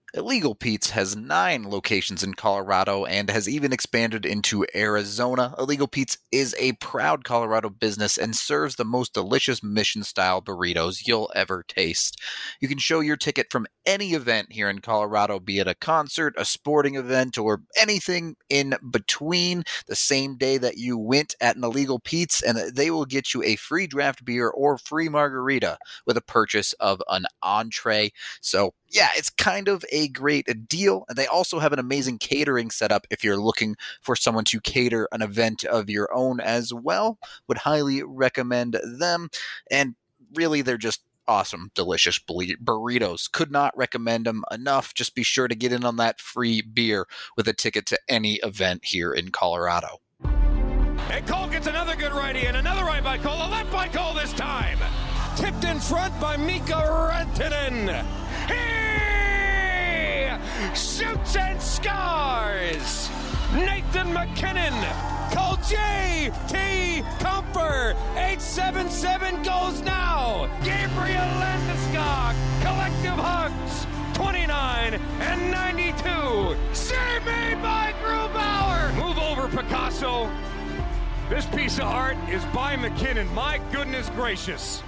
Illegal Pete's has 9 locations in Colorado and has even expanded into Arizona. Illegal Pete's is a proud Colorado business and serves the most delicious mission-style burritos you'll ever taste. You can show your ticket from any event here in Colorado, be it a concert, a sporting event, or anything in between, the same day that you went at an Illegal Pete's, and they will get you a free draft beer or free margarita with a purchase of an entree. So yeah, it's kind of a great deal. And they also have an amazing catering setup if you're looking for someone to cater an event of your own as well. Would highly recommend them. And really, they're just awesome, delicious burritos. Could not recommend them enough. Just be sure to get in on that free beer with a ticket to any event here in Colorado. And Cole gets another good righty, and another right by Cole, a left by Cole this time. Tipped in front by Mika Rantanen. He shoots and scores. Nathan MacKinnon. Call J.T. Comfer. 877 goes now. Gabriel Landeskog. Collective hugs. 29 and 92. Save made by Grubauer. Move over, Picasso. This piece of art is by McKinnon. My goodness gracious.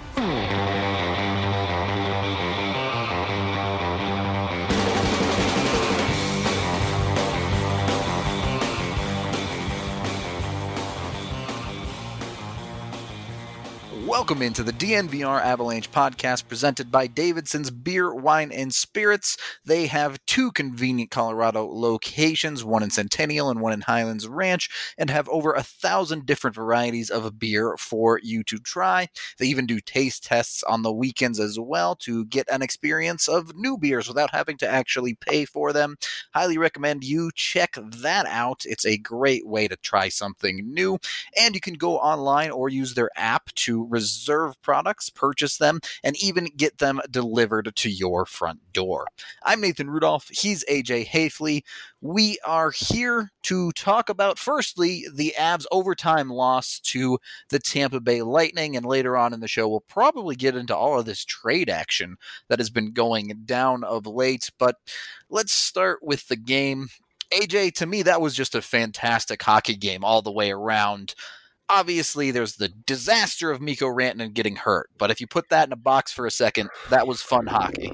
Welcome into the DNVR Avalanche podcast presented by Davidson's Beer, Wine, and Spirits. They have 2 convenient Colorado locations, one in Centennial and one in Highlands Ranch, and have over 1,000 different varieties of beer for you to try. They even do taste tests on the weekends as well to get an experience of new beers without having to actually pay for them. Highly recommend you check that out. It's a great way to try something new, and you can go online or use their app to reserve products, purchase them, and even get them delivered to your front door. I'm Nathan Rudolph. He's AJ Hafley. We are here to talk about, firstly, the Avs' overtime loss to the Tampa Bay Lightning, and later on in the show, we'll probably get into all of this trade action that has been going down of late. But let's start with the game. AJ, to me, that was just a fantastic hockey game all the way around. Obviously, there's the disaster of Mikko Rantanen getting hurt, but if you put that in a box for a second, that was fun hockey.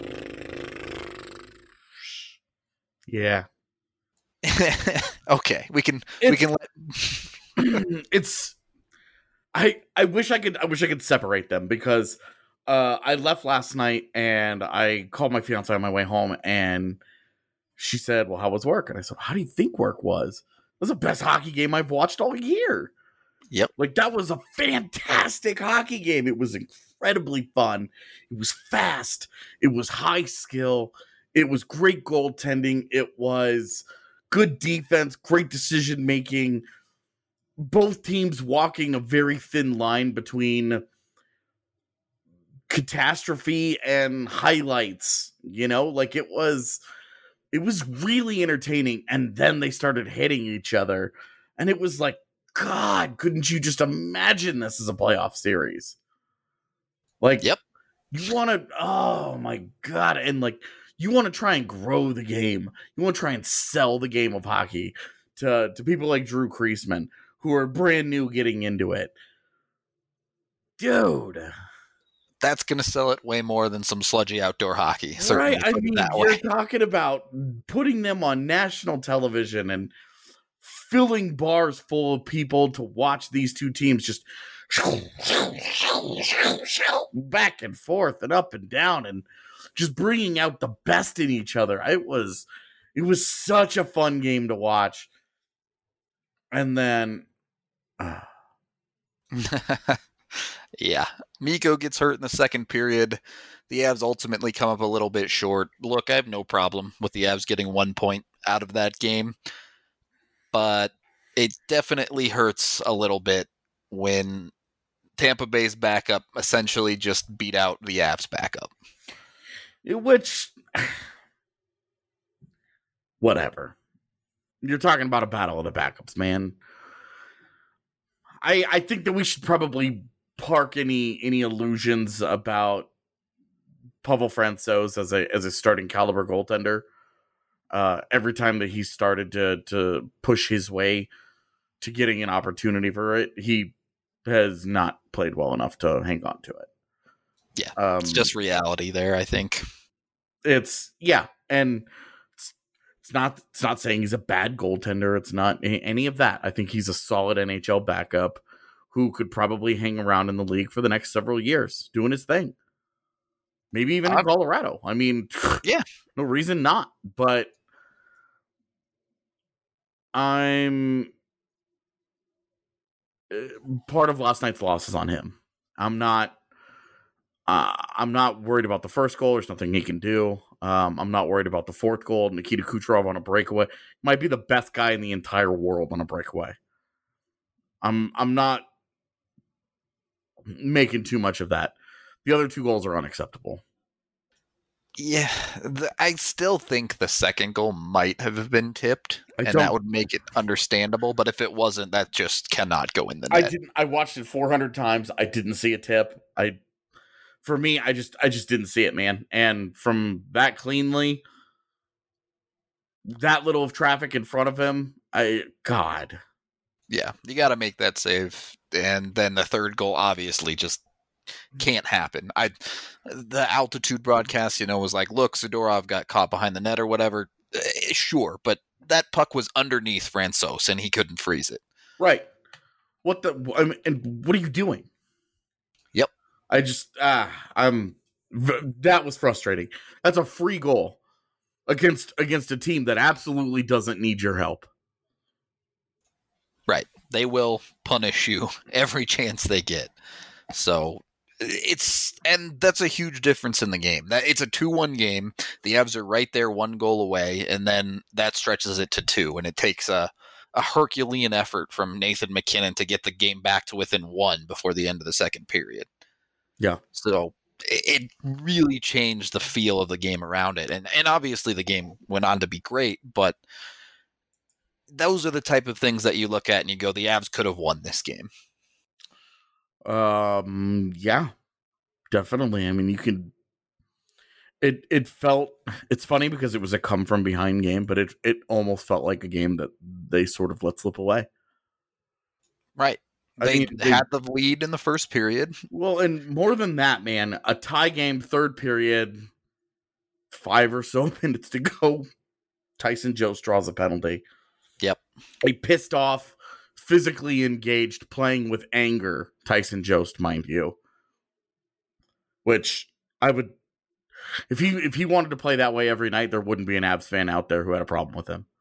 Yeah. Okay, we can let it's I wish I could separate them because I left last night and I called my fiance on my way home and she said, "Well, how was work?" And I said, "How do you think work was?" It was the best hockey game I've watched all year. Yep. Like, that was a fantastic hockey game. It was incredibly fun. It was fast. It was high skill. It was great goaltending. It was good defense, great decision making. Both teams walking a very thin line between catastrophe and highlights, you know? Like, it was really entertaining. And then they started hitting each other. And it was like, God, couldn't you just imagine this as a playoff series? Like, yep. You want to, oh my God. And like, you want to try and grow the game. You want to try and sell the game of hockey to people like Drew Kreisman, who are brand new getting into it. Dude. That's going to sell it way more than some sludgy outdoor hockey. Right. I mean, you're talking about putting them on national television and filling bars full of people to watch these two teams just back and forth and up and down and just bringing out the best in each other. It was such a fun game to watch. And then yeah, Mikko gets hurt in the second period. The Avs ultimately come up a little bit short. Look, I have no problem with the Avs getting 1 point out of that game, but it definitely hurts a little bit when Tampa Bay's backup essentially just beat out the Avs backup. Which, whatever. You're talking about a battle of the backups, man. I think that we should probably park any illusions about Pavel Francouz as a starting caliber goaltender. Every time that he started to push his way to getting an opportunity for it, he has not played well enough to hang on to it. Yeah, it's just reality there, I think. And it's not saying he's a bad goaltender. It's not any of that. I think he's a solid NHL backup who could probably hang around in the league for the next several years doing his thing. Maybe even in Colorado. I mean, yeah, no reason not. But I'm part of last night's loss is on him. I'm not worried about the first goal. There's nothing he can do. I'm not worried about the fourth goal. Nikita Kucherov on a breakaway might be the best guy in the entire world on a breakaway. I'm not making too much of that. The other two goals are unacceptable. Yeah, I still think the second goal might have been tipped, and that would make it understandable. But if it wasn't, that just cannot go in the net. I watched it 400 times. I didn't see a tip. For me, I just didn't see it, man. And from that cleanly, that little of traffic in front of him, God. Yeah, you got to make that save. And then the third goal obviously just can't happen. The altitude broadcast, was like, look, Zadorov got caught behind the net or whatever. Sure, but that puck was underneath Francouz and he couldn't freeze it. Right. And what are you doing? Yep. That was frustrating. That's a free goal against a team that absolutely doesn't need your help. Right. They will punish you every chance they get. So and that's a huge difference in the game. It's a 2-1 game. The Avs are right there, 1 goal away, and then that stretches it to 2, and it takes a Herculean effort from Nathan MacKinnon to get the game back to within 1 before the end of the second period. Yeah. So it really changed the feel of the game around it. And obviously the game went on to be great, but those are the type of things that you look at and you go, the Avs could have won this game. Yeah, definitely. I mean, it's funny because it was a come from behind game, but it almost felt like a game that they sort of let slip away. Right. They had the lead in the first period. Well, and more than that, man, a tie game, third period, 5 or so minutes to go. Tyson Jost draws a penalty. Yep. A pissed off, physically engaged, playing with anger Tyson Jost, mind you. Which I would, if he wanted to play that way every night, there wouldn't be an Avs fan out there who had a problem with him.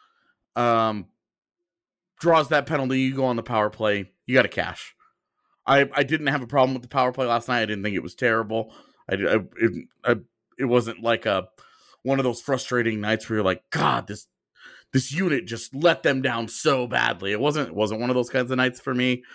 Draws that penalty, you go on the power play, you got to cash. I didn't have a problem with the power play last night. I didn't think it was terrible. It wasn't like one of those frustrating nights where you're like, God, this unit just let them down so badly. It wasn't one of those kinds of nights for me.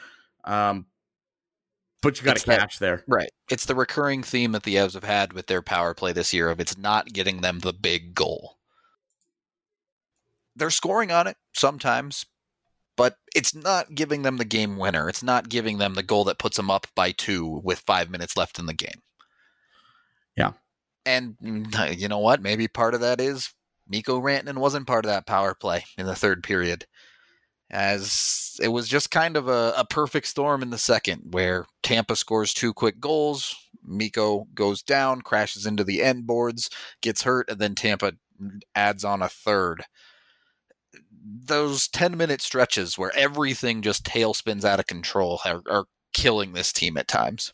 But you got to catch there. Right. It's the recurring theme that the Avs have had with their power play this year of it's not getting them the big goal. They're scoring on it sometimes, but it's not giving them the game winner. It's not giving them the goal that puts them up by 2 with 5 minutes left in the game. Yeah. And you know what? Maybe part of that is Mikko Rantanen wasn't part of that power play in the third period, as it was just kind of a perfect storm in the second where Tampa scores 2 quick goals, Mikko goes down, crashes into the end boards, gets hurt, and then Tampa adds on a third. Those 10-minute stretches where everything just tailspins out of control are killing this team at times.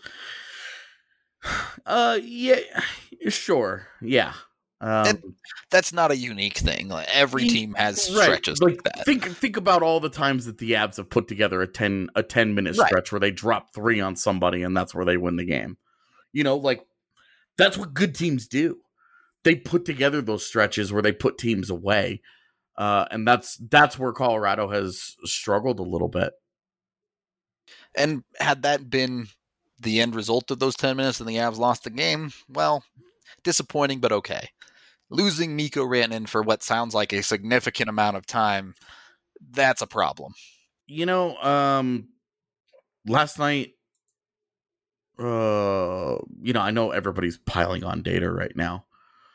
Yeah, sure. Yeah. That's not a unique thing. Like, every team has stretches like that. Think about all the times that the Avs have put together a 10-minute stretch where they drop 3 on somebody and that's where they win the game. Like that's what good teams do. They put together those stretches where they put teams away. And that's where Colorado has struggled a little bit. And had that been the end result of those 10 minutes and the Avs lost the game, well, disappointing, but okay. Losing Mikko Rantanen for what sounds like a significant amount of time, that's a problem. Last night, I know everybody's piling on data right now.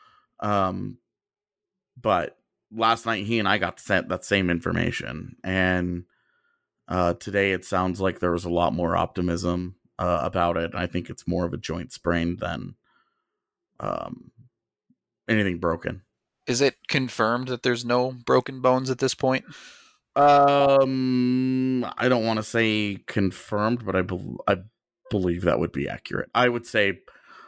But last night he and I got sent that same information, and today it sounds like there was a lot more optimism about it. I think it's more of a joint sprain than anything broken. Is it confirmed that there's no broken bones at this point? I don't want to say confirmed, but I believe that would be accurate. I would say,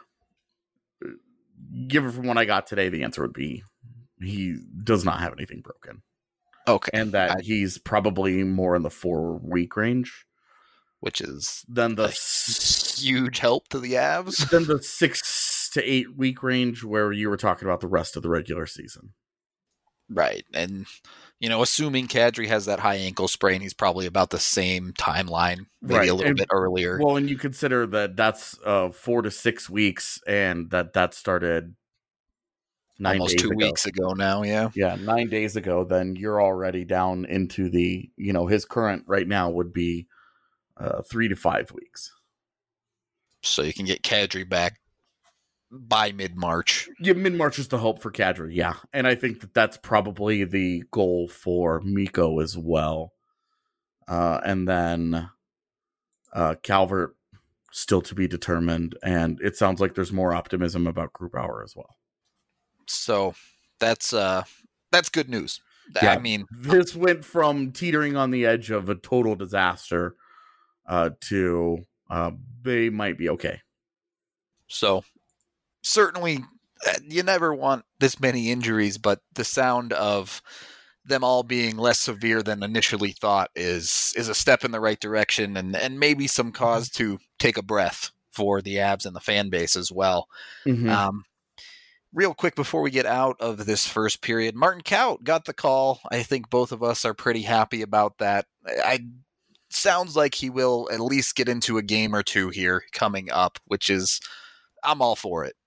given from what I got today, the answer would be he does not have anything broken. Okay. And that he's probably more in the 4-week range. Which is than the huge help to the Avs. Than the 6 to 8 week range where you were talking about the rest of the regular season. Right. And, assuming Kadri has that high ankle sprain, he's probably about the same timeline, maybe a little bit earlier. Well, and you consider that that's 4 to 6 weeks, and that started almost 2 weeks ago now, yeah. Yeah, 9 days ago, then you're already down into the, his current right now would be 3 to 5 weeks. So you can get Kadri back by mid-March. Yeah, mid-March is the hope for Kadri, yeah. And I think that's probably the goal for Mikko as well. And then Calvert still to be determined, and it sounds like there's more optimism about Grubauer as well. So that's good news. Yeah, I mean, this went from teetering on the edge of a total disaster to they might be okay. So certainly you never want this many injuries, but the sound of them all being less severe than initially thought is a step in the right direction, and maybe some cause to take a breath for the Avs and the fan base as well. Mm-hmm. Real quick before we get out of this first period, Martin Kaut got the call. I think both of us are pretty happy about that. Sounds like he will at least get into a game or two here coming up, which is, I'm all for it.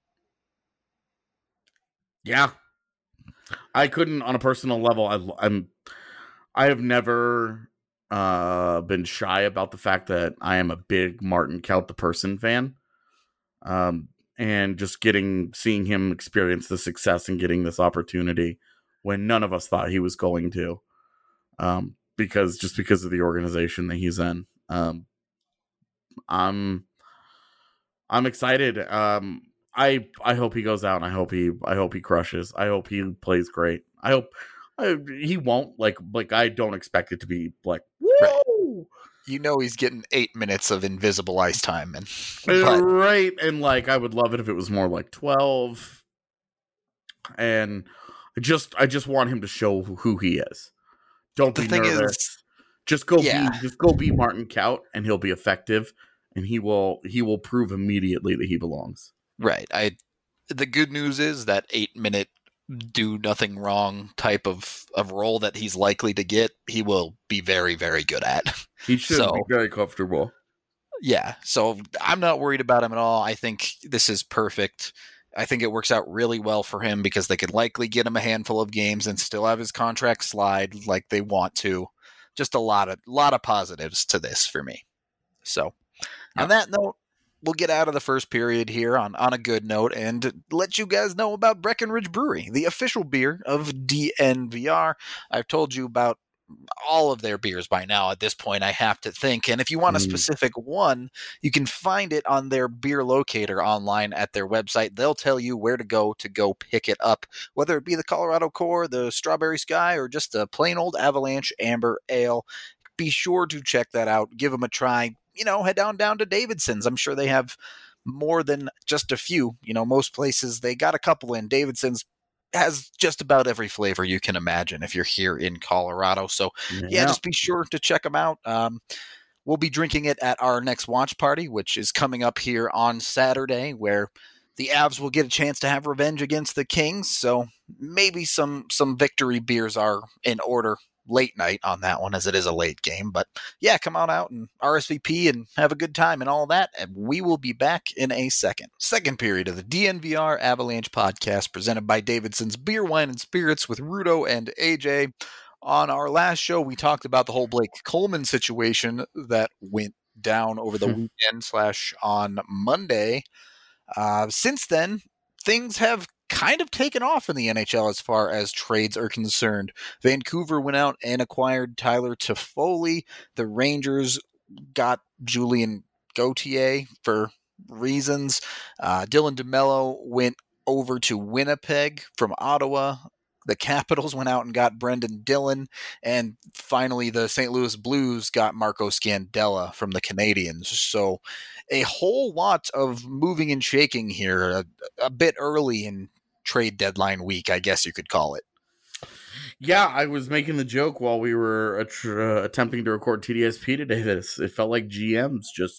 Yeah. I couldn't, on a personal level, I have never been shy about the fact that I am a big Martin Kaut the person fan. And just seeing him experience the success and getting this opportunity when none of us thought he was going to, because of the organization that he's in. I'm excited. I hope he goes out, and I hope he crushes. I hope he plays great. I hope he won't like I don't expect it to be like, woo! Right. He's getting 8 minutes of invisible ice time, right. And like, I would love it if it was more like 12. And I just want him to show who he is. Don't be nervous. Just go be Martin Kaut, and he'll be effective, and he will prove immediately that he belongs. Right. The good news is that 8-minute do nothing wrong type of role that he's likely to get, he will be very, very good at. He should be very comfortable. Yeah. So I'm not worried about him at all. I think this is perfect. I think it works out really well for him because they could likely get him a handful of games and still have his contract slide like they want to. Just a lot of positives to this for me. So on that note, we'll get out of the first period here on a good note and let you guys know about Breckenridge Brewery, the official beer of DNVR. I've told you about all of their beers by now at this point, I have to think. And if you want a specific one, you can find it on their beer locator online at their website. They'll tell you where to go pick it up, whether it be the Colorado Core, the Strawberry Sky, or just a plain old Avalanche Amber Ale. Be sure to check that out. Give them a try. Head down to Davidson's. I'm sure they have more than just a few. Most places they got a couple in. Davidson's has just about every flavor you can imagine if you're here in Colorado. So just be sure to check them out. We'll be drinking it at our next watch party, which is coming up here on Saturday, where the Avs will get a chance to have revenge against the Kings. So maybe some victory beers are in order late night on that one, as it is a late game. But yeah, come on out and RSVP and have a good time and all that. And we will be back in a second. Second period of the DNVR Avalanche podcast presented by Davidson's Beer, Wine, and Spirits with Rudo and AJ. On our last show, we talked about the whole Blake Coleman situation that went down over the weekend / on Monday. Since then, things have kind of taken off in the NHL as far as trades are concerned. Vancouver went out and acquired Tyler Toffoli. The Rangers got Julien Gauthier for reasons. Dylan DeMello went over to Winnipeg from Ottawa. The Capitals went out and got Brendan Dillon. And finally, the St. Louis Blues got Marco Scandella from the Canadiens. So a whole lot of moving and shaking here, a bit early in trade deadline week, I guess you could call it. Yeah, I was making the joke while we were attempting to record TDSP today that it felt like GMs just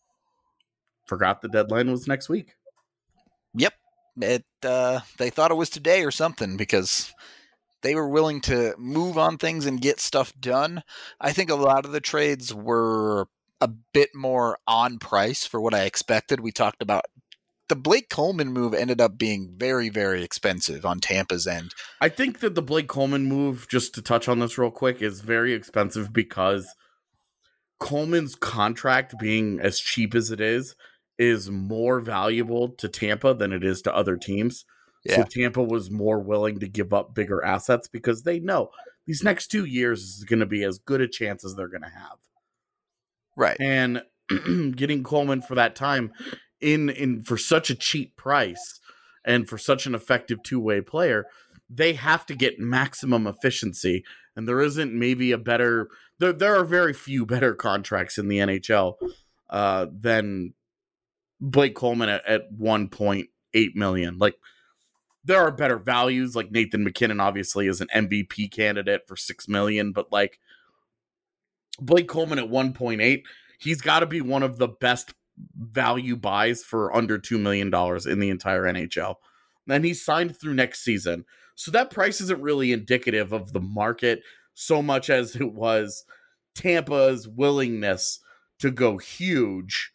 forgot the deadline was next week. Yep. They thought it was today or something because they were willing to move on things and get stuff done. I think a lot of the trades were a bit more on price for what I expected. We talked about the Blake Coleman move ended up being very, very expensive on Tampa's end. I think that the Blake Coleman move, just to touch on this real quick, is very expensive because Coleman's contract being as cheap as it is more valuable to Tampa than it is to other teams. Yeah. So Tampa was more willing to give up bigger assets because they know these next 2 years is going to be as good a chance as they're going to have. Right. And getting Coleman for that time in for such a cheap price and for such an effective two-way player, they have to get maximum efficiency. And there isn't maybe a better there are very few better contracts in the NHL than Blake Coleman at $1.8 million. Like, there are better values. Like Nathan McKinnon obviously is an MVP candidate for $6 million, but like Blake Coleman at 1.8, he's got to be one of the best value buys for under $2 million in the entire NHL. Then he's signed through next season. So that price isn't really indicative of the market so much as it was Tampa's willingness to go huge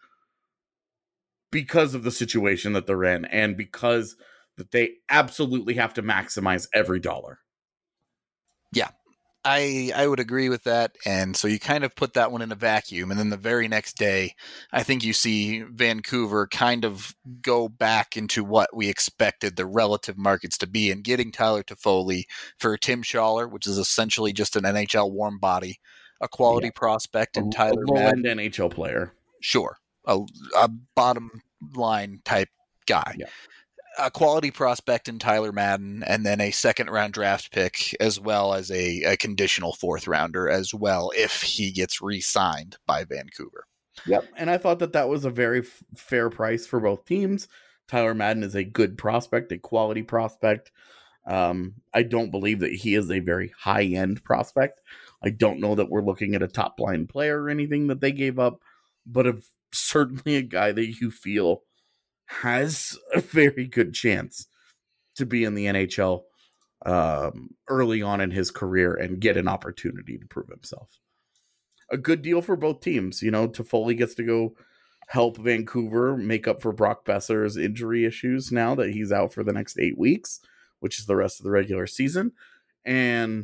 because of the situation that they're in and because that they absolutely have to maximize every dollar. Yeah, I would agree with that. And so you kind of put that one in a vacuum. And then the very next day, I think you see Vancouver kind of go back into what we expected the relative markets to be, and getting Tyler Toffoli for Tim Schaller, which is essentially just an NHL warm body, a quality prospect, and Tyler Madden, NHL player. Sure. A bottom line type guy. Yeah. A quality prospect in Tyler Madden, and then a second-round draft pick, as well as a conditional fourth-rounder as well, if he gets re-signed by Vancouver. Yep, and I thought that was a very fair price for both teams. Tyler Madden is a good prospect, a quality prospect. I don't believe that he is a very high-end prospect. I don't know that we're looking at a top-line player or anything that they gave up, but certainly a guy that you feel has a very good chance to be in the NHL early on in his career and get an opportunity to prove himself. A good deal for both teams. You know, Toffoli gets to go help Vancouver make up for Brock Besser's injury issues now that he's out for the next 8 weeks, which is the rest of the regular season. And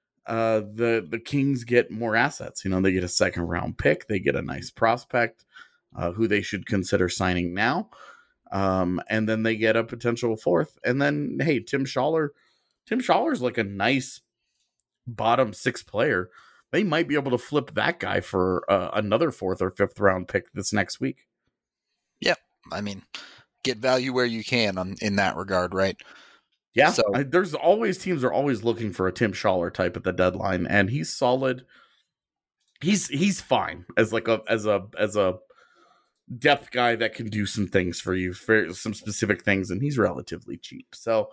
the Kings get more assets. You know, they get a second round pick. They get a nice prospect who they should consider signing now. And then they get a potential fourth. And then, hey, Tim Schaller's like a nice bottom six player. They might be able to flip that guy for another fourth or fifth round pick this next week. Yeah. I mean, get value where you can in that regard, right? Yeah. So teams are always looking for a Tim Schaller type at the deadline, and he's solid. He's fine as a depth guy that can do some things for you, for some specific things, and he's relatively cheap. So,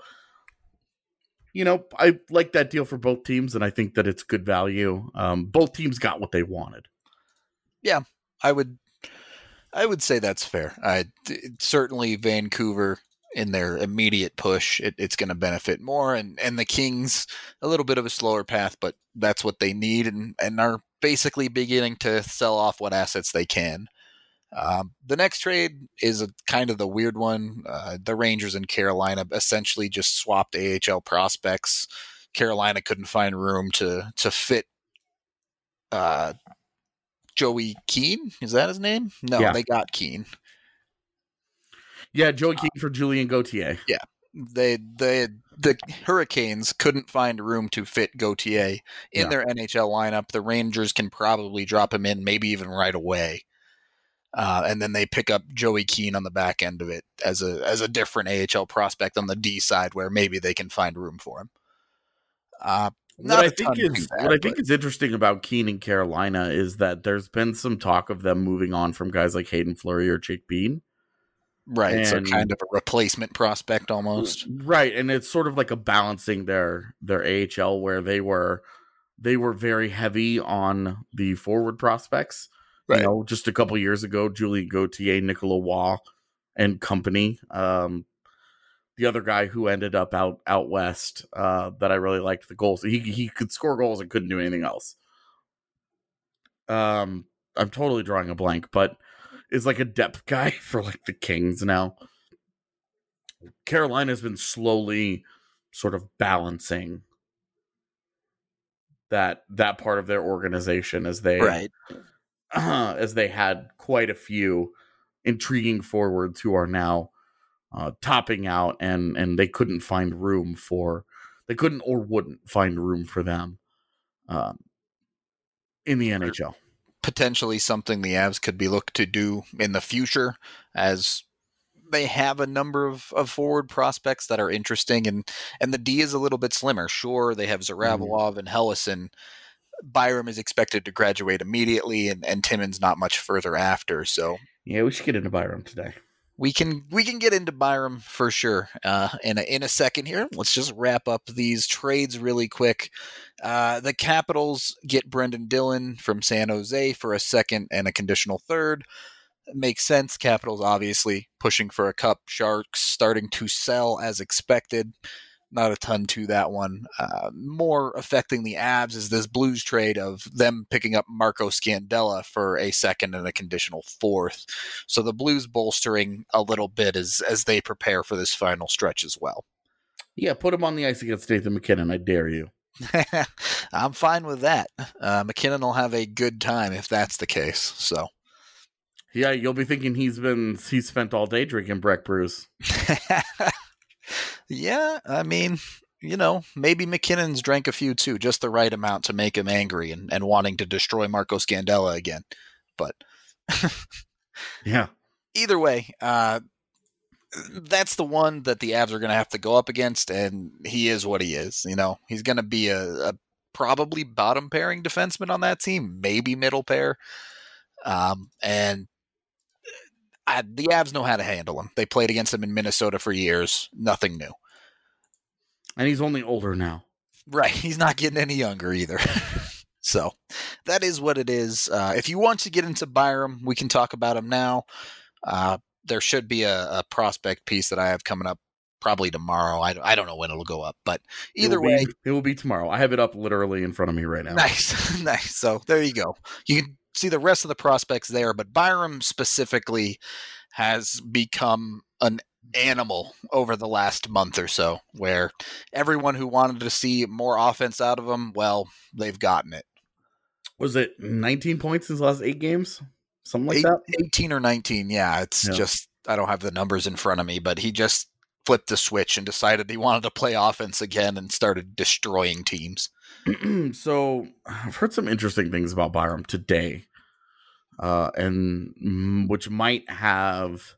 you know, I like that deal for both teams, and I think that it's good value. Both teams got what they wanted. Yeah, I would say that's fair. Certainly Vancouver in their immediate push, it's going to benefit more, and the Kings a little bit of a slower path, but that's what they need, and are basically beginning to sell off what assets they can. The next trade is kind of the weird one. The Rangers and Carolina essentially just swapped AHL prospects. Carolina couldn't find room to fit Joey Keane. Is that his name? No, Yeah. they got Keane. Yeah, Joey Keane for Julian Gauthier. Yeah. The Hurricanes couldn't find room to fit Gauthier in their NHL lineup. The Rangers can probably drop him in, maybe even right away. And then they pick up Joey Keane on the back end of it as a different AHL prospect on the D side, where maybe they can find room for him. What I think is interesting about Keane in Carolina is that there's been some talk of them moving on from guys like Hayden Fleury or Jake Bean. Right, so kind of a replacement prospect almost. Right, and it's sort of like a balancing their AHL where they were very heavy on the forward prospects. Right. You know, just a couple years ago, Julian Gauthier, Nicolas Waugh, and company. The other guy who ended up out west that I really liked the goals. He could score goals and couldn't do anything else. I'm totally drawing a blank, but is like a depth guy for like the Kings now. Carolina's been slowly sort of balancing that part of their organization as they had quite a few intriguing forwards who are now topping out, and they couldn't find room for or wouldn't find room for them in the NHL. Potentially something the Avs could be looked to do in the future, as they have a number of forward prospects that are interesting, and the D is a little bit slimmer. Sure, they have Zaravalov and Helleson. Byram is expected to graduate immediately, and Timmins not much further after. So yeah, we should get into Byram today. We can get into Byram for sure in a second here. Let's just wrap up these trades really quick. The Capitals get Brendan Dillon from San Jose for a second and a conditional third. It makes sense. Capitals obviously pushing for a cup. Sharks starting to sell as expected. Not a ton to that one. More affecting the Avs is this Blues trade of them picking up Marco Scandella for a second and a conditional fourth. So the Blues bolstering a little bit as they prepare for this final stretch as well. Yeah, put him on the ice against Nathan MacKinnon. I dare you. I'm fine with that. MacKinnon will have a good time if that's the case. So, yeah, you'll be thinking he's spent all day drinking Breck brews. Yeah, I mean, you know, maybe McKinnon's drank a few too, just the right amount to make him angry and wanting to destroy Marco Scandella again. But yeah, either way, that's the one that the Avs are going to have to go up against, and he is what he is. You know, he's going to be a probably bottom pairing defenseman on that team, maybe middle pair, and the Avs know how to handle him. They played against him in Minnesota for years. Nothing new. And he's only older now. Right. He's not getting any younger either. So that is what it is. If you want to get into Byram, we can talk about him now. There should be a prospect piece that I have coming up probably tomorrow. I don't know when it'll go up, but either way. It will be tomorrow. I have it up literally in front of me right now. Nice. Nice. So there you go. You can see the rest of the prospects there, but Byram specifically has become an animal over the last month or so, where everyone who wanted to see more offense out of him, well, they've gotten it. Was it 19 points in his last 8 games? Something like that? 18 or 19, yeah. It's just, I don't have the numbers in front of me, but he just flipped the switch and decided he wanted to play offense again and started destroying teams. So I've heard some interesting things about Byram today, and which might have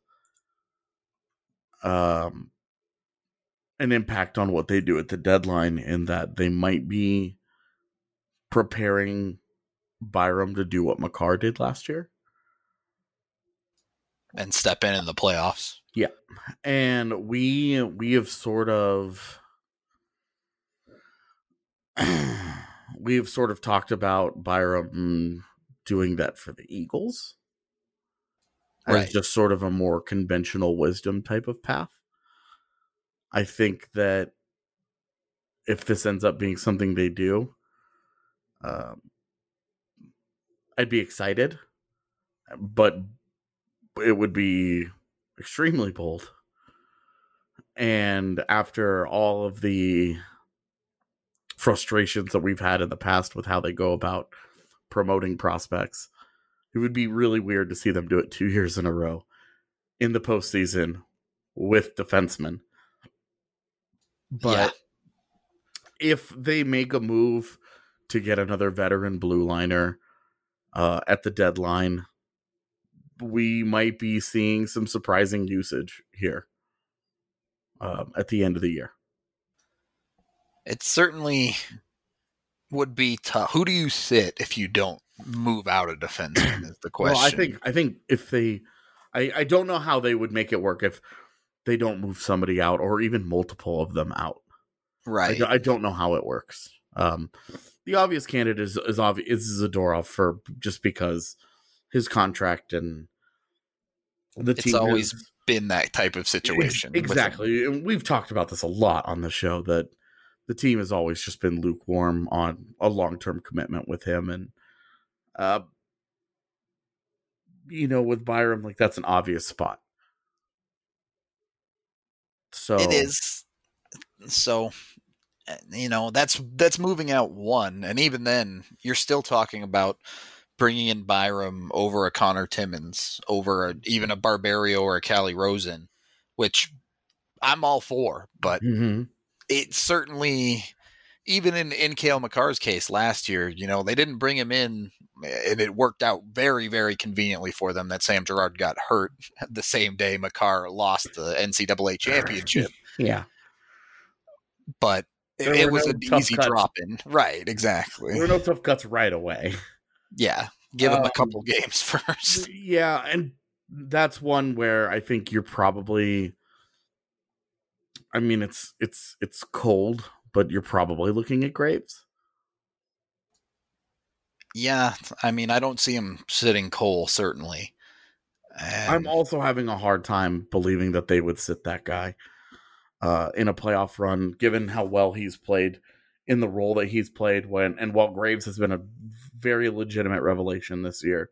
an impact on what they do at the deadline, in that they might be preparing Byram to do what Makar did last year and step in the playoffs. Yeah, and we have sort of talked about Byram doing that for the Eagles. Right. As just sort of a more conventional wisdom type of path. I think that if this ends up being something they do, I'd be excited, but it would be extremely bold. And after all of the frustrations that we've had in the past with how they go about promoting prospects, It would be really weird to see them do it 2 years in a row in the postseason with defensemen. But if they make a move to get another veteran blue liner at the deadline, we might be seeing some surprising usage here at the end of the year. It certainly would be tough. Who do you sit if you don't move out a defenseman is the question. Well, I think if they, I don't know how they would make it work if they don't move somebody out or even multiple of them out. Right. I don't know how it works. The obvious candidate is Zadorov for just because his contract and the team. It's always been that type of situation. Exactly. And we've talked about this a lot on the show, that the team has always just been lukewarm on a long-term commitment with him. And, with Byram, like, that's an obvious spot. So it is. So, that's moving out one. And even then, you're still talking about bringing in Byram over a Connor Timmins, over even a Barbario or a Callie Rosen, which I'm all for. But it certainly, even in Cale Makar's case last year, they didn't bring him in, and it worked out very, very conveniently for them that Sam Girard got hurt the same day Makar lost the NCAA championship. Yeah. But it was an easy drop in. Right, exactly. There were no tough cuts right away. Yeah. Give him a couple games first. Yeah, and that's one where I think you're probably, I mean, it's cold, but you're probably looking at Graves. Yeah, I mean, I don't see him sitting Cole, certainly. I'm also having a hard time believing that they would sit that guy in a playoff run, given how well he's played in the role that he's played while Graves has been a very legitimate revelation this year.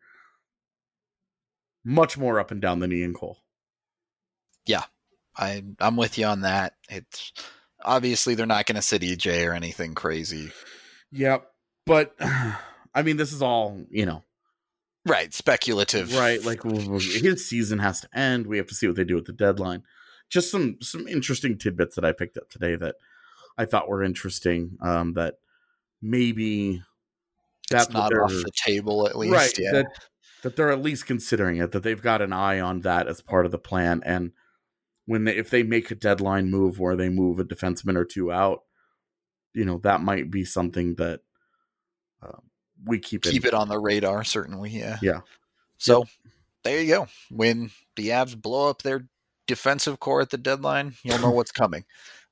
Much more up and down than Ian Cole. Yeah. I'm with you on that. It's obviously they're not going to sit EJ or anything crazy. Yeah, but I mean, this is all, right, speculative. Right, like his season has to end. We have to see what they do at the deadline. Just some interesting tidbits that I picked up today that I thought were interesting. That maybe that's not off the table, at least. Right, yeah. That they're at least considering it. That they've got an eye on that as part of the plan. And if they make a deadline move where they move a defenseman or two out, that might be something that we keep it on the radar. Certainly, yeah. Yeah. So there you go. When the Avs blow up their defensive core at the deadline, you'll know what's coming.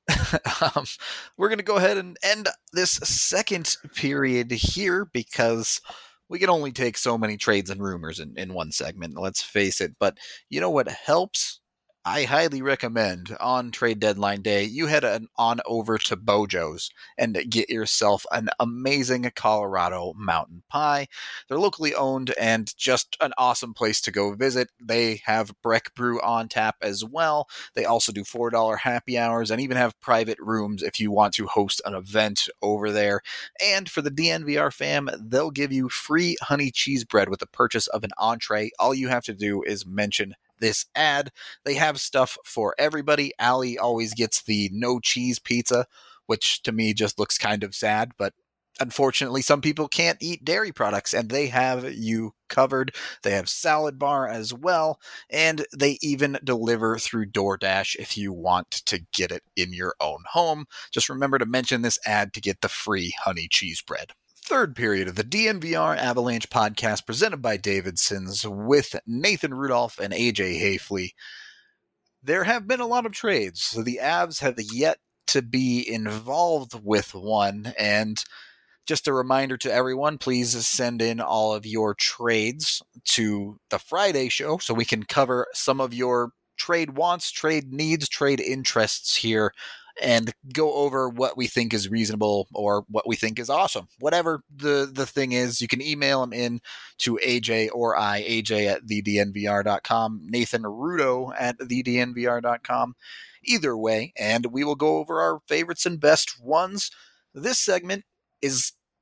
We're going to go ahead and end this second period here because we can only take so many trades and rumors in one segment, let's face it. But you know what helps? I highly recommend on trade deadline day, you head on over to Bojo's and get yourself an amazing Colorado mountain pie. They're locally owned and just an awesome place to go visit. They have Breck Brew on tap as well. They also do $4 happy hours and even have private rooms if you want to host an event over there. And for the DNVR fam, they'll give you free honey cheese bread with the purchase of an entree. All you have to do is mention this ad. They have stuff for everybody. Allie always gets the no cheese pizza, which to me just looks kind of sad, but unfortunately some people can't eat dairy products and they have you covered. They have salad bar as well, and they even deliver through DoorDash if you want to get it in your own home. Just remember to mention this ad to get the free honey cheese bread. Third period of the DNVR Avalanche podcast presented by Davidson's with Nathan Rudolph and AJ Hafley. There have been a lot of trades. So the Avs have yet to be involved with one. And just a reminder to everyone, please send in all of your trades to the Friday show so we can cover some of your trade wants, trade needs, trade interests here and go over what we think is reasonable or what we think is awesome. Whatever the thing is, you can email them in to AJ or AJ at thednvr.com, Nathan Rudo at thednvr.com. Either way, and we will go over our favorites and best ones. This segment is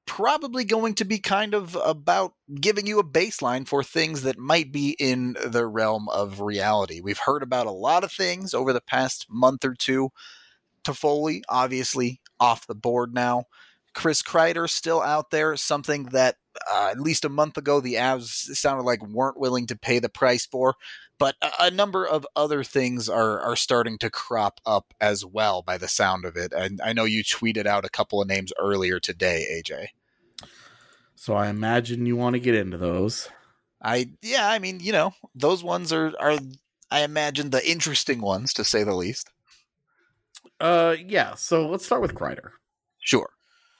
probably going to be kind of about giving you a baseline for things that might be in the realm of reality. We've heard about a lot of things over the past month or two. Toffoli, obviously, off the board now. Chris Kreider still out there, something that at least a month ago the Avs sounded like weren't willing to pay the price for. But a number of other things are starting to crop up as well by the sound of it. And I know you tweeted out a couple of names earlier today, AJ. So I imagine you want to get into those. I mean, those ones are I imagine the interesting ones, to say the least. Yeah, so let's start with Kreider. Sure.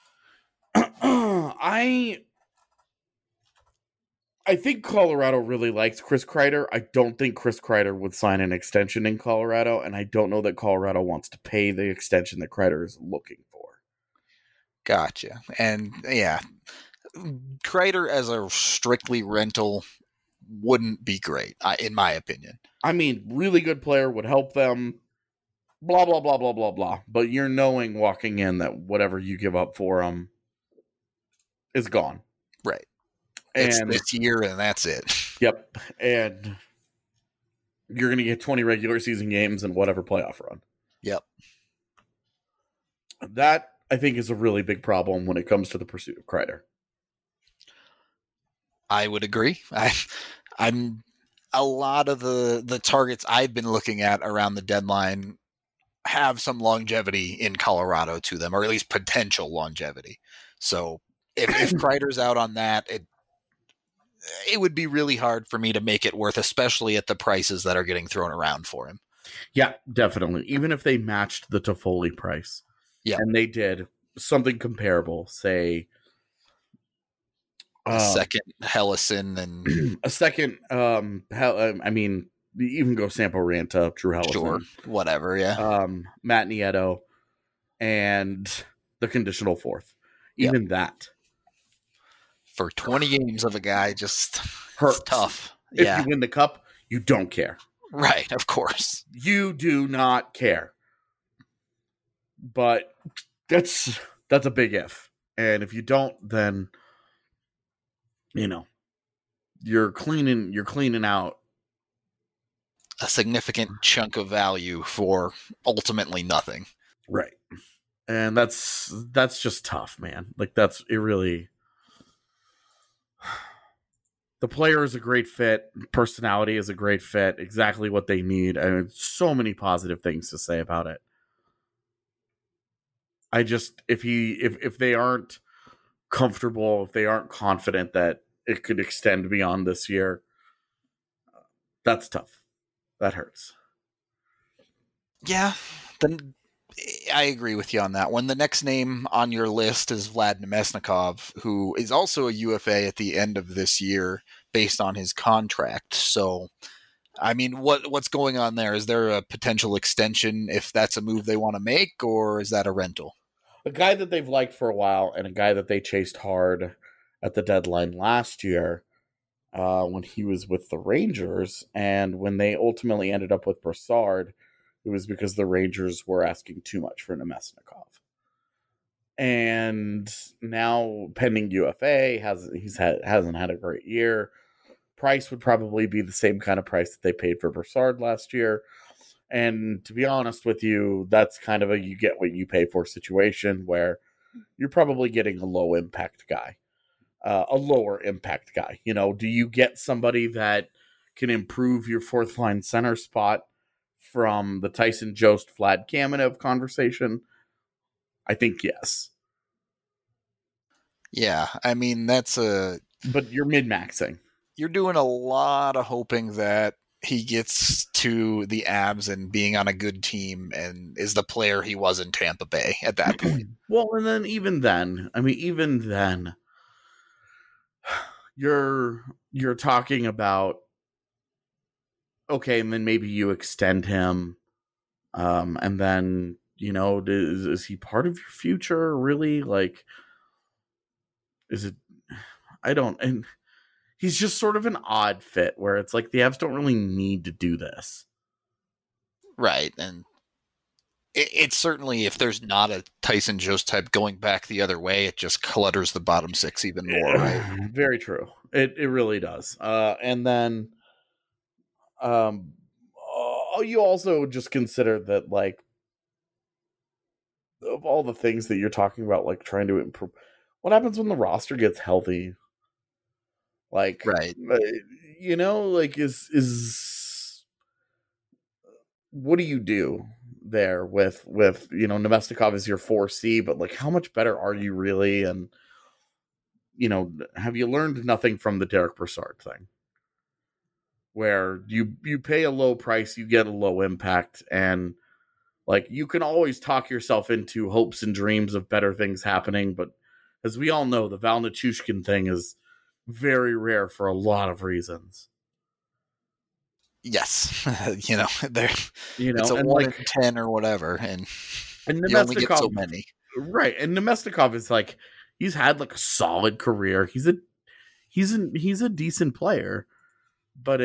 I think Colorado really likes Chris Kreider. I don't think Chris Kreider would sign an extension in Colorado, and I don't know that Colorado wants to pay the extension that Kreider is looking for. Gotcha. And yeah, Kreider as a strictly rental wouldn't be great, in my opinion. I mean, really good player, would help them, blah, blah, blah, blah, blah, blah. But you're knowing walking in that whatever you give up for him is gone. Right. It's this year, and that's it. Yep. And you're going to get 20 regular season games and whatever playoff run. Yep. That, I think, is a really big problem when it comes to the pursuit of Kreider. I would agree. I'm a lot of the targets I've been looking at around the deadline have some longevity in Colorado to them, or at least potential longevity. So if Kreider's out on that, it would be really hard for me to make it worth, especially at the prices that are getting thrown around for him. Yeah, definitely. Even if they matched the Toffoli price. Yeah. And they did something comparable, say a second Hellison and a second, I mean, even go Sampo Ranta, Drew Hellison. Sure, whatever, yeah. Matt Nieto and the conditional fourth. Even that. For 20 games of a guy, just hurts. Tough. If you win the cup, you don't care. Right, of course. You do not care. But that's a big if. And if you don't, then you're cleaning out a significant chunk of value for ultimately nothing. Right. And that's just tough, man. Like it really. The player is a great fit. Personality is a great fit. Exactly what they need. I mean, so many positive things to say about it. I just, if they aren't comfortable, if they aren't confident that it could extend beyond this year, that's tough. That hurts. Yeah, then I agree with you on that one. The next name on your list is Vlad Nemesnikov, who is also a UFA at the end of this year based on his contract. So, I mean, what's going on there? Is there a potential extension if that's a move they want to make, or is that a rental? A guy that they've liked for a while and a guy that they chased hard at the deadline last year when he was with the Rangers, and when they ultimately ended up with Brassard, it was because the Rangers were asking too much for Nemesnikov. And now, pending UFA, hasn't had a great year. Price would probably be the same kind of price that they paid for Brassard last year. And to be honest with you, that's kind of a you get what you pay for situation where you're probably getting a low impact guy, a lower impact guy. Do you get somebody that can improve your fourth line center spot from the Tyson Jost Vlad Kamenev conversation? I think yes. Yeah, I mean, but you're min-maxing. You're doing a lot of hoping that he gets to the Abs and being on a good team and is the player he was in Tampa Bay at that point. Well, and then even then, you're talking about, okay, and then maybe you extend him, and then, is he part of your future, really? Like, is it, and he's just sort of an odd fit where it's like the Avs don't really need to do this. Right, and It's certainly, if there's not a Tyson Jost type going back the other way, it just clutters the bottom six even more, right? Very true. It really does. And then you also just consider that, like, of all the things that you're talking about, like trying to improve, what happens when the roster gets healthy? Like, right. Like is what do you do there with Nemestikov is your 4C, but like how much better are you really? And have you learned nothing from the Derek Brassard thing, where you pay a low price, you get a low impact, and like you can always talk yourself into hopes and dreams of better things happening, but as we all know, the Val Nichushkin thing is very rare for a lot of reasons. Yes, there. It's a and 1 in 10 or whatever, and you only get so many. Right, and Nemestikov is like, he's had like a solid career. He's a decent player, but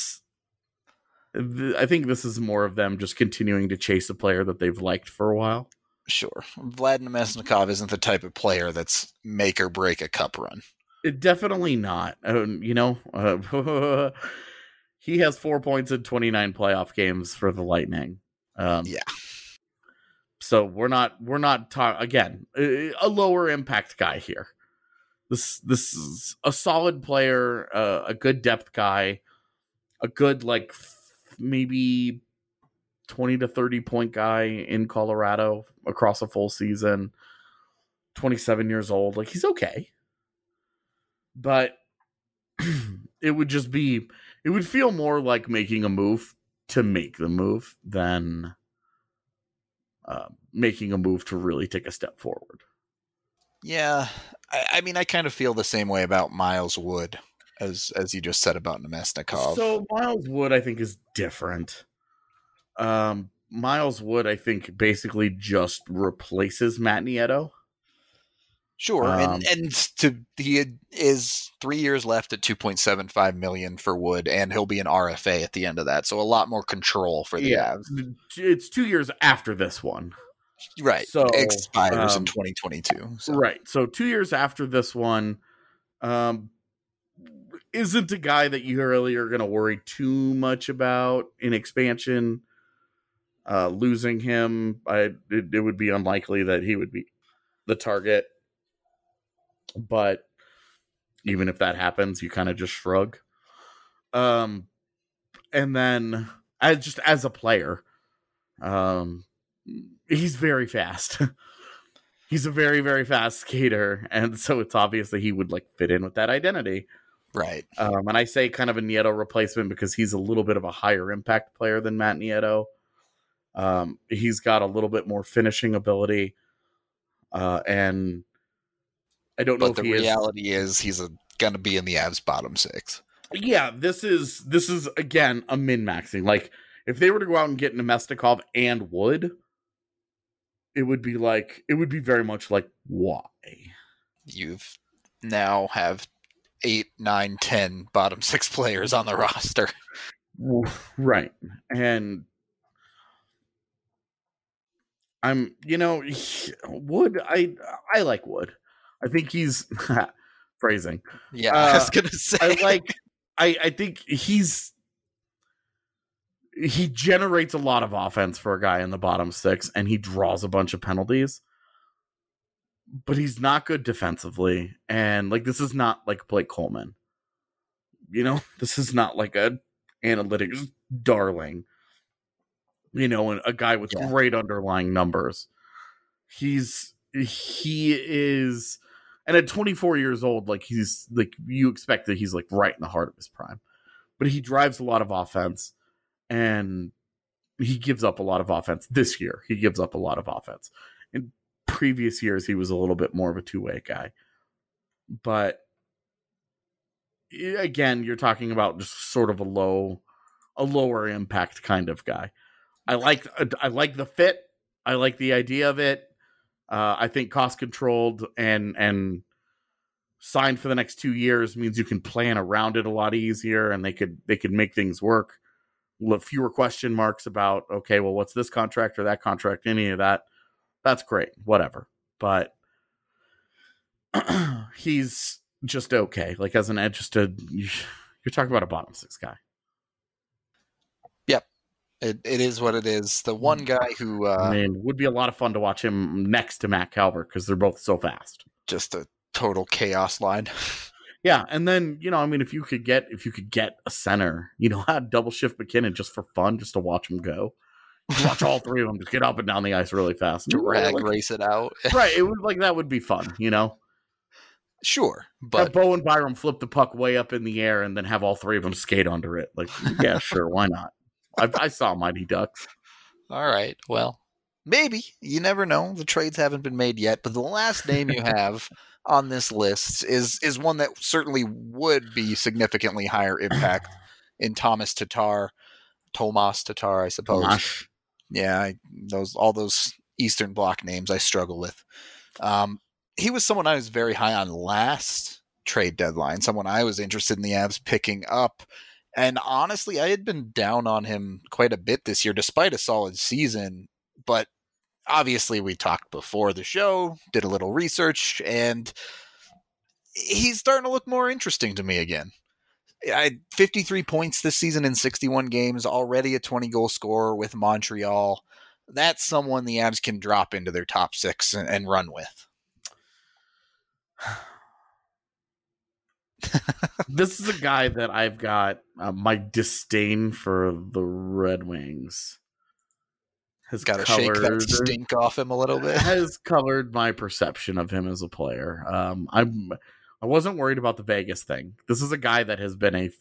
I think this is more of them just continuing to chase a player that they've liked for a while. Sure, Vlad Nemesnikov isn't the type of player that's make or break a cup run. Definitely not. He has 4 points in 29 playoff games for the Lightning. Yeah. So we're not talking again, a lower impact guy here. This is a solid player, a good depth guy, a good like maybe 20 to 30 point guy in Colorado across a full season. 27 years old, like he's okay. But it would feel more like making a move to make the move than making a move to really take a step forward. Yeah, I mean, I kind of feel the same way about Miles Wood as you just said about Nemesnikov. So Miles Wood, I think, is different. Miles Wood, I think, basically just replaces Matt Nieto. Sure, he is 3 years left at $2.75 million for Wood, and he'll be an RFA at the end of that, so a lot more control for the Avs. It's 2 years after this one, right? So expires in 2022. So. Right, so 2 years after this one, isn't a guy that you really are going to worry too much about in expansion. Losing him, it would be unlikely that he would be the target. But even if that happens, you kind of just shrug. And then as a player, he's very fast. He's a very, very fast skater. And so it's obvious that he would like fit in with that identity. Right. And I say kind of a Nieto replacement because he's a little bit of a higher impact player than Matt Nieto. He's got a little bit more finishing ability. And I don't know if the reality is he's going to be in the Avs bottom six. Yeah, this is again a min-maxing. Like if they were to go out and get Nemestikov and Wood, it would be very much like, why? You've now have 8, 9, 10 bottom six players on the roster. Right. And Wood, I like Wood. I think he's phrasing. Yeah, I was gonna say. I think he generates a lot of offense for a guy in the bottom six, and he draws a bunch of penalties. But he's not good defensively, and like this is not like Blake Coleman. This is not like a analytics darling. And a guy with great underlying numbers. He is. And at 24 years old, like he's like you expect that he's like right in the heart of his prime, but he drives a lot of offense, and he gives up a lot of offense. This year, he gives up a lot of offense. In previous years, he was a little bit more of a two-way guy, but again, you're talking about just sort of a lower impact kind of guy. I like the fit. I like the idea of it. I think cost controlled and signed for the next 2 years means you can plan around it a lot easier, and they could make things work. fewer question marks about, okay, well, what's this contract or that contract, any of that. That's great, whatever. But he's just okay. Like as an edge, you're talking about a bottom 6 guy. Yep. It is what it is. The one guy who would be a lot of fun to watch him next to Matt Calvert because they're both so fast. Just a total chaos line. Yeah, and then if you could get a center, had double shift McKinnon just for fun, just to watch him go. Watch all three of them just get up and down the ice really fast. Drag race it out. Right, it was like that would be fun, Sure, but have Bo and Byram flip the puck way up in the air and then have all three of them skate under it. Like, yeah, sure, why not? I saw Mighty Ducks. All right, well, maybe. You never know. The trades haven't been made yet, but the last name you have on this list is one that certainly would be significantly higher impact in Tomas Tatar, I suppose. Tomas. Yeah, all those Eastern Bloc names I struggle with. He was someone I was very high on last trade deadline, someone I was interested in the Avs picking up. And honestly, I had been down on him quite a bit this year, despite a solid season. But obviously, we talked before the show, did a little research, and he's starting to look more interesting to me again. I had 53 points this season in 61 games, already a 20-goal scorer with Montreal. That's someone the Avs can drop into their top 6 and run with. This is a guy that I've got my disdain for the Red Wings has got to shake that stink off him a little bit. Has colored my perception of him as a player. I wasn't worried about the Vegas thing. This is a guy that has been a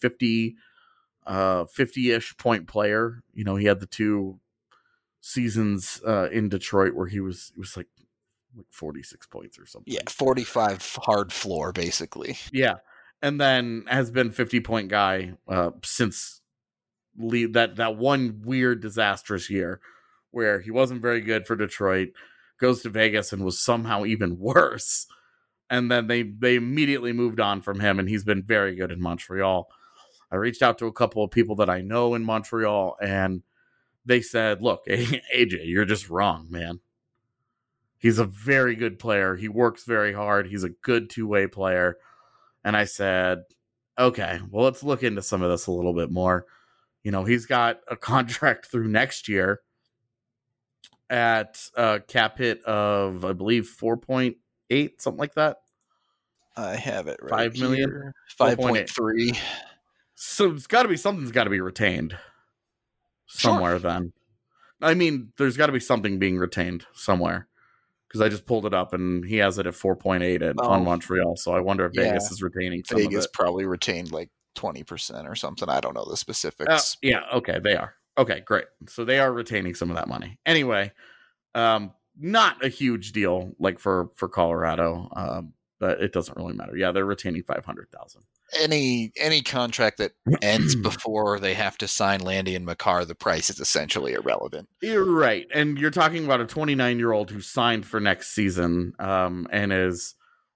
50-ish point player. He had the 2 seasons in Detroit where he was like 46 points or something. Yeah, 45 hard floor, basically. Yeah, and then has been 50-point guy since that one weird, disastrous year where he wasn't very good for Detroit, goes to Vegas and was somehow even worse. And then they immediately moved on from him, and he's been very good in Montreal. I reached out to a couple of people that I know in Montreal, and they said, look, AJ, you're just wrong, man. He's a very good player. He works very hard. He's a good two-way player. And I said, okay, well, let's look into some of this a little bit more. He's got a contract through next year at a cap hit of, I believe, 4.8, something like that. I have it right 5 million? 5.3. So it's got to be, something's got to be retained somewhere. Sure. Then. I mean, there's got to be something being retained somewhere. Because I just pulled it up and he has it at 4.8 on Montreal. So I wonder if Vegas is retaining some of it. Vegas probably retained like 20% or something. I don't know the specifics. Yeah, okay, they are. Okay, great. So they are retaining some of that money. Anyway, not a huge deal like for Colorado, but it doesn't really matter. Yeah, they're retaining $500,000. Any contract that ends before they have to sign Landy and Makar, the price is essentially irrelevant. You're right, and you're talking about a 29-year-old who signed for next season, and is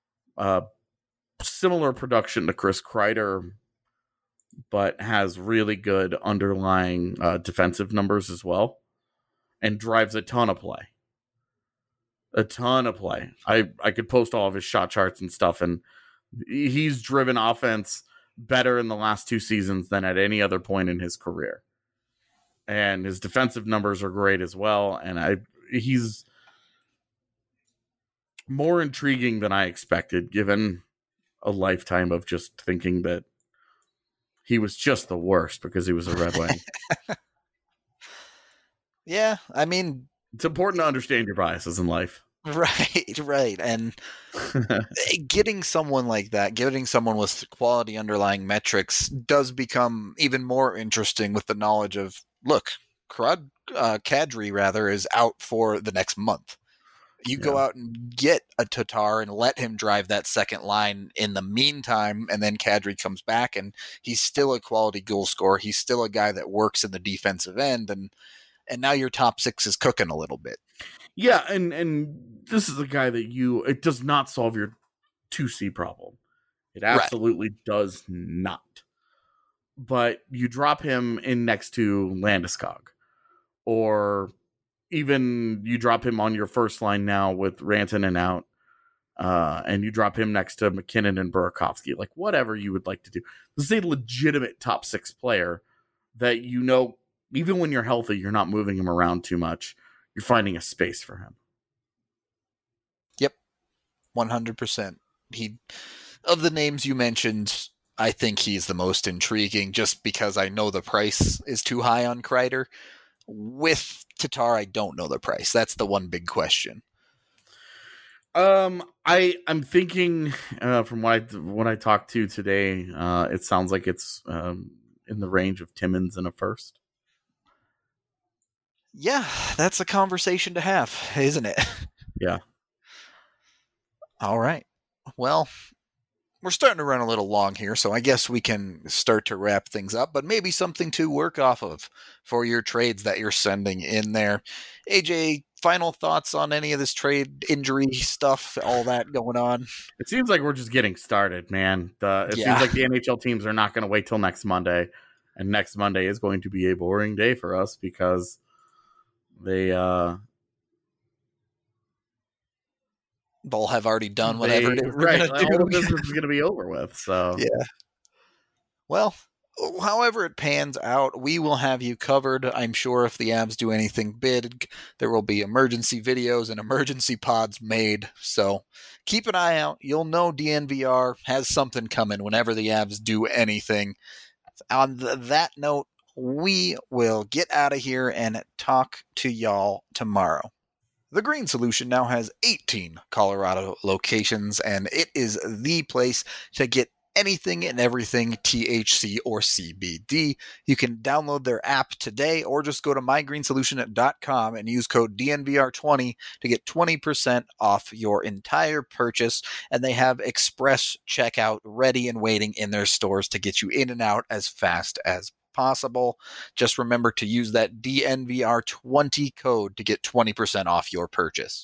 similar production to Chris Kreider, but has really good underlying defensive numbers as well, and drives a ton of play. A ton of play. I could post all of his shot charts and stuff, and he's driven offense better in the last 2 seasons than at any other point in his career. And his defensive numbers are great as well. And he's more intriguing than I expected, given a lifetime of just thinking that he was just the worst because he was a Red Wing. Yeah, I mean, it's important to understand your biases in life. Right. And getting someone like that, getting someone with quality underlying metrics does become even more interesting with the knowledge of, look, Kadri rather is out for the next month. You go out and get a Tatar and let him drive that second line in the meantime, and then Kadri comes back and he's still a quality goal scorer. He's still a guy that works in the defensive end, and now your top 6 is cooking a little bit. Yeah, and this is a guy that it does not solve your 2C problem. It absolutely does not. but you drop him in next to Landeskog, or even you drop him on your first line now with Rantanen out, and you drop him next to McKinnon and Burakovsky, like whatever you would like to do. This is a legitimate top 6 player that, you know, even when you're healthy, you're not moving him around too much. You're finding a space for him. Yep, 100%. Of the names you mentioned, I think he's the most intriguing, just because I know the price is too high on Kreider. With Tatar, I don't know the price. That's the one big question. I'm thinking from what I talked to today, it sounds like it's in the range of Timmins and a first. Yeah, that's a conversation to have, isn't it? Yeah. All right. Well, we're starting to run a little long here, so I guess we can start to wrap things up, but maybe something to work off of for your trades that you're sending in there. AJ, final thoughts on any of this trade injury stuff, all that going on? It seems like we're just getting started, man. It seems like the NHL teams are not going to wait till next Monday, and next Monday is going to be a boring day for us because they'll have already done whatever it is. Right. All of this is going to be over with. So yeah. Well, however it pans out, we will have you covered. I'm sure if the Avs do anything big, there will be emergency videos and emergency pods made. So keep an eye out. You'll know DNVR has something coming whenever the Avs do anything. On that note, we will get out of here and talk to y'all tomorrow. The Green Solution now has 18 Colorado locations, and it is the place to get anything and everything THC or CBD. You can download their app today or just go to mygreensolution.com and use code DNVR20 to get 20% off your entire purchase. And they have express checkout ready and waiting in their stores to get you in and out as fast as possible. Just remember to use that DNVR20 code to get 20% off your purchase.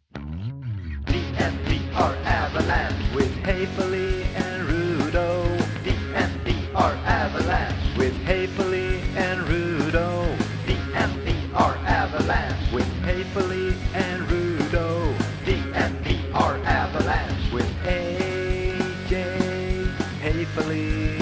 DNVR Avalanche with Haefele and Rudo. DNVR Avalanche with Haefele and Rudo. DNVR Avalanche with Haefele and Rudo. DNVR Avalanche with AJ Haefele.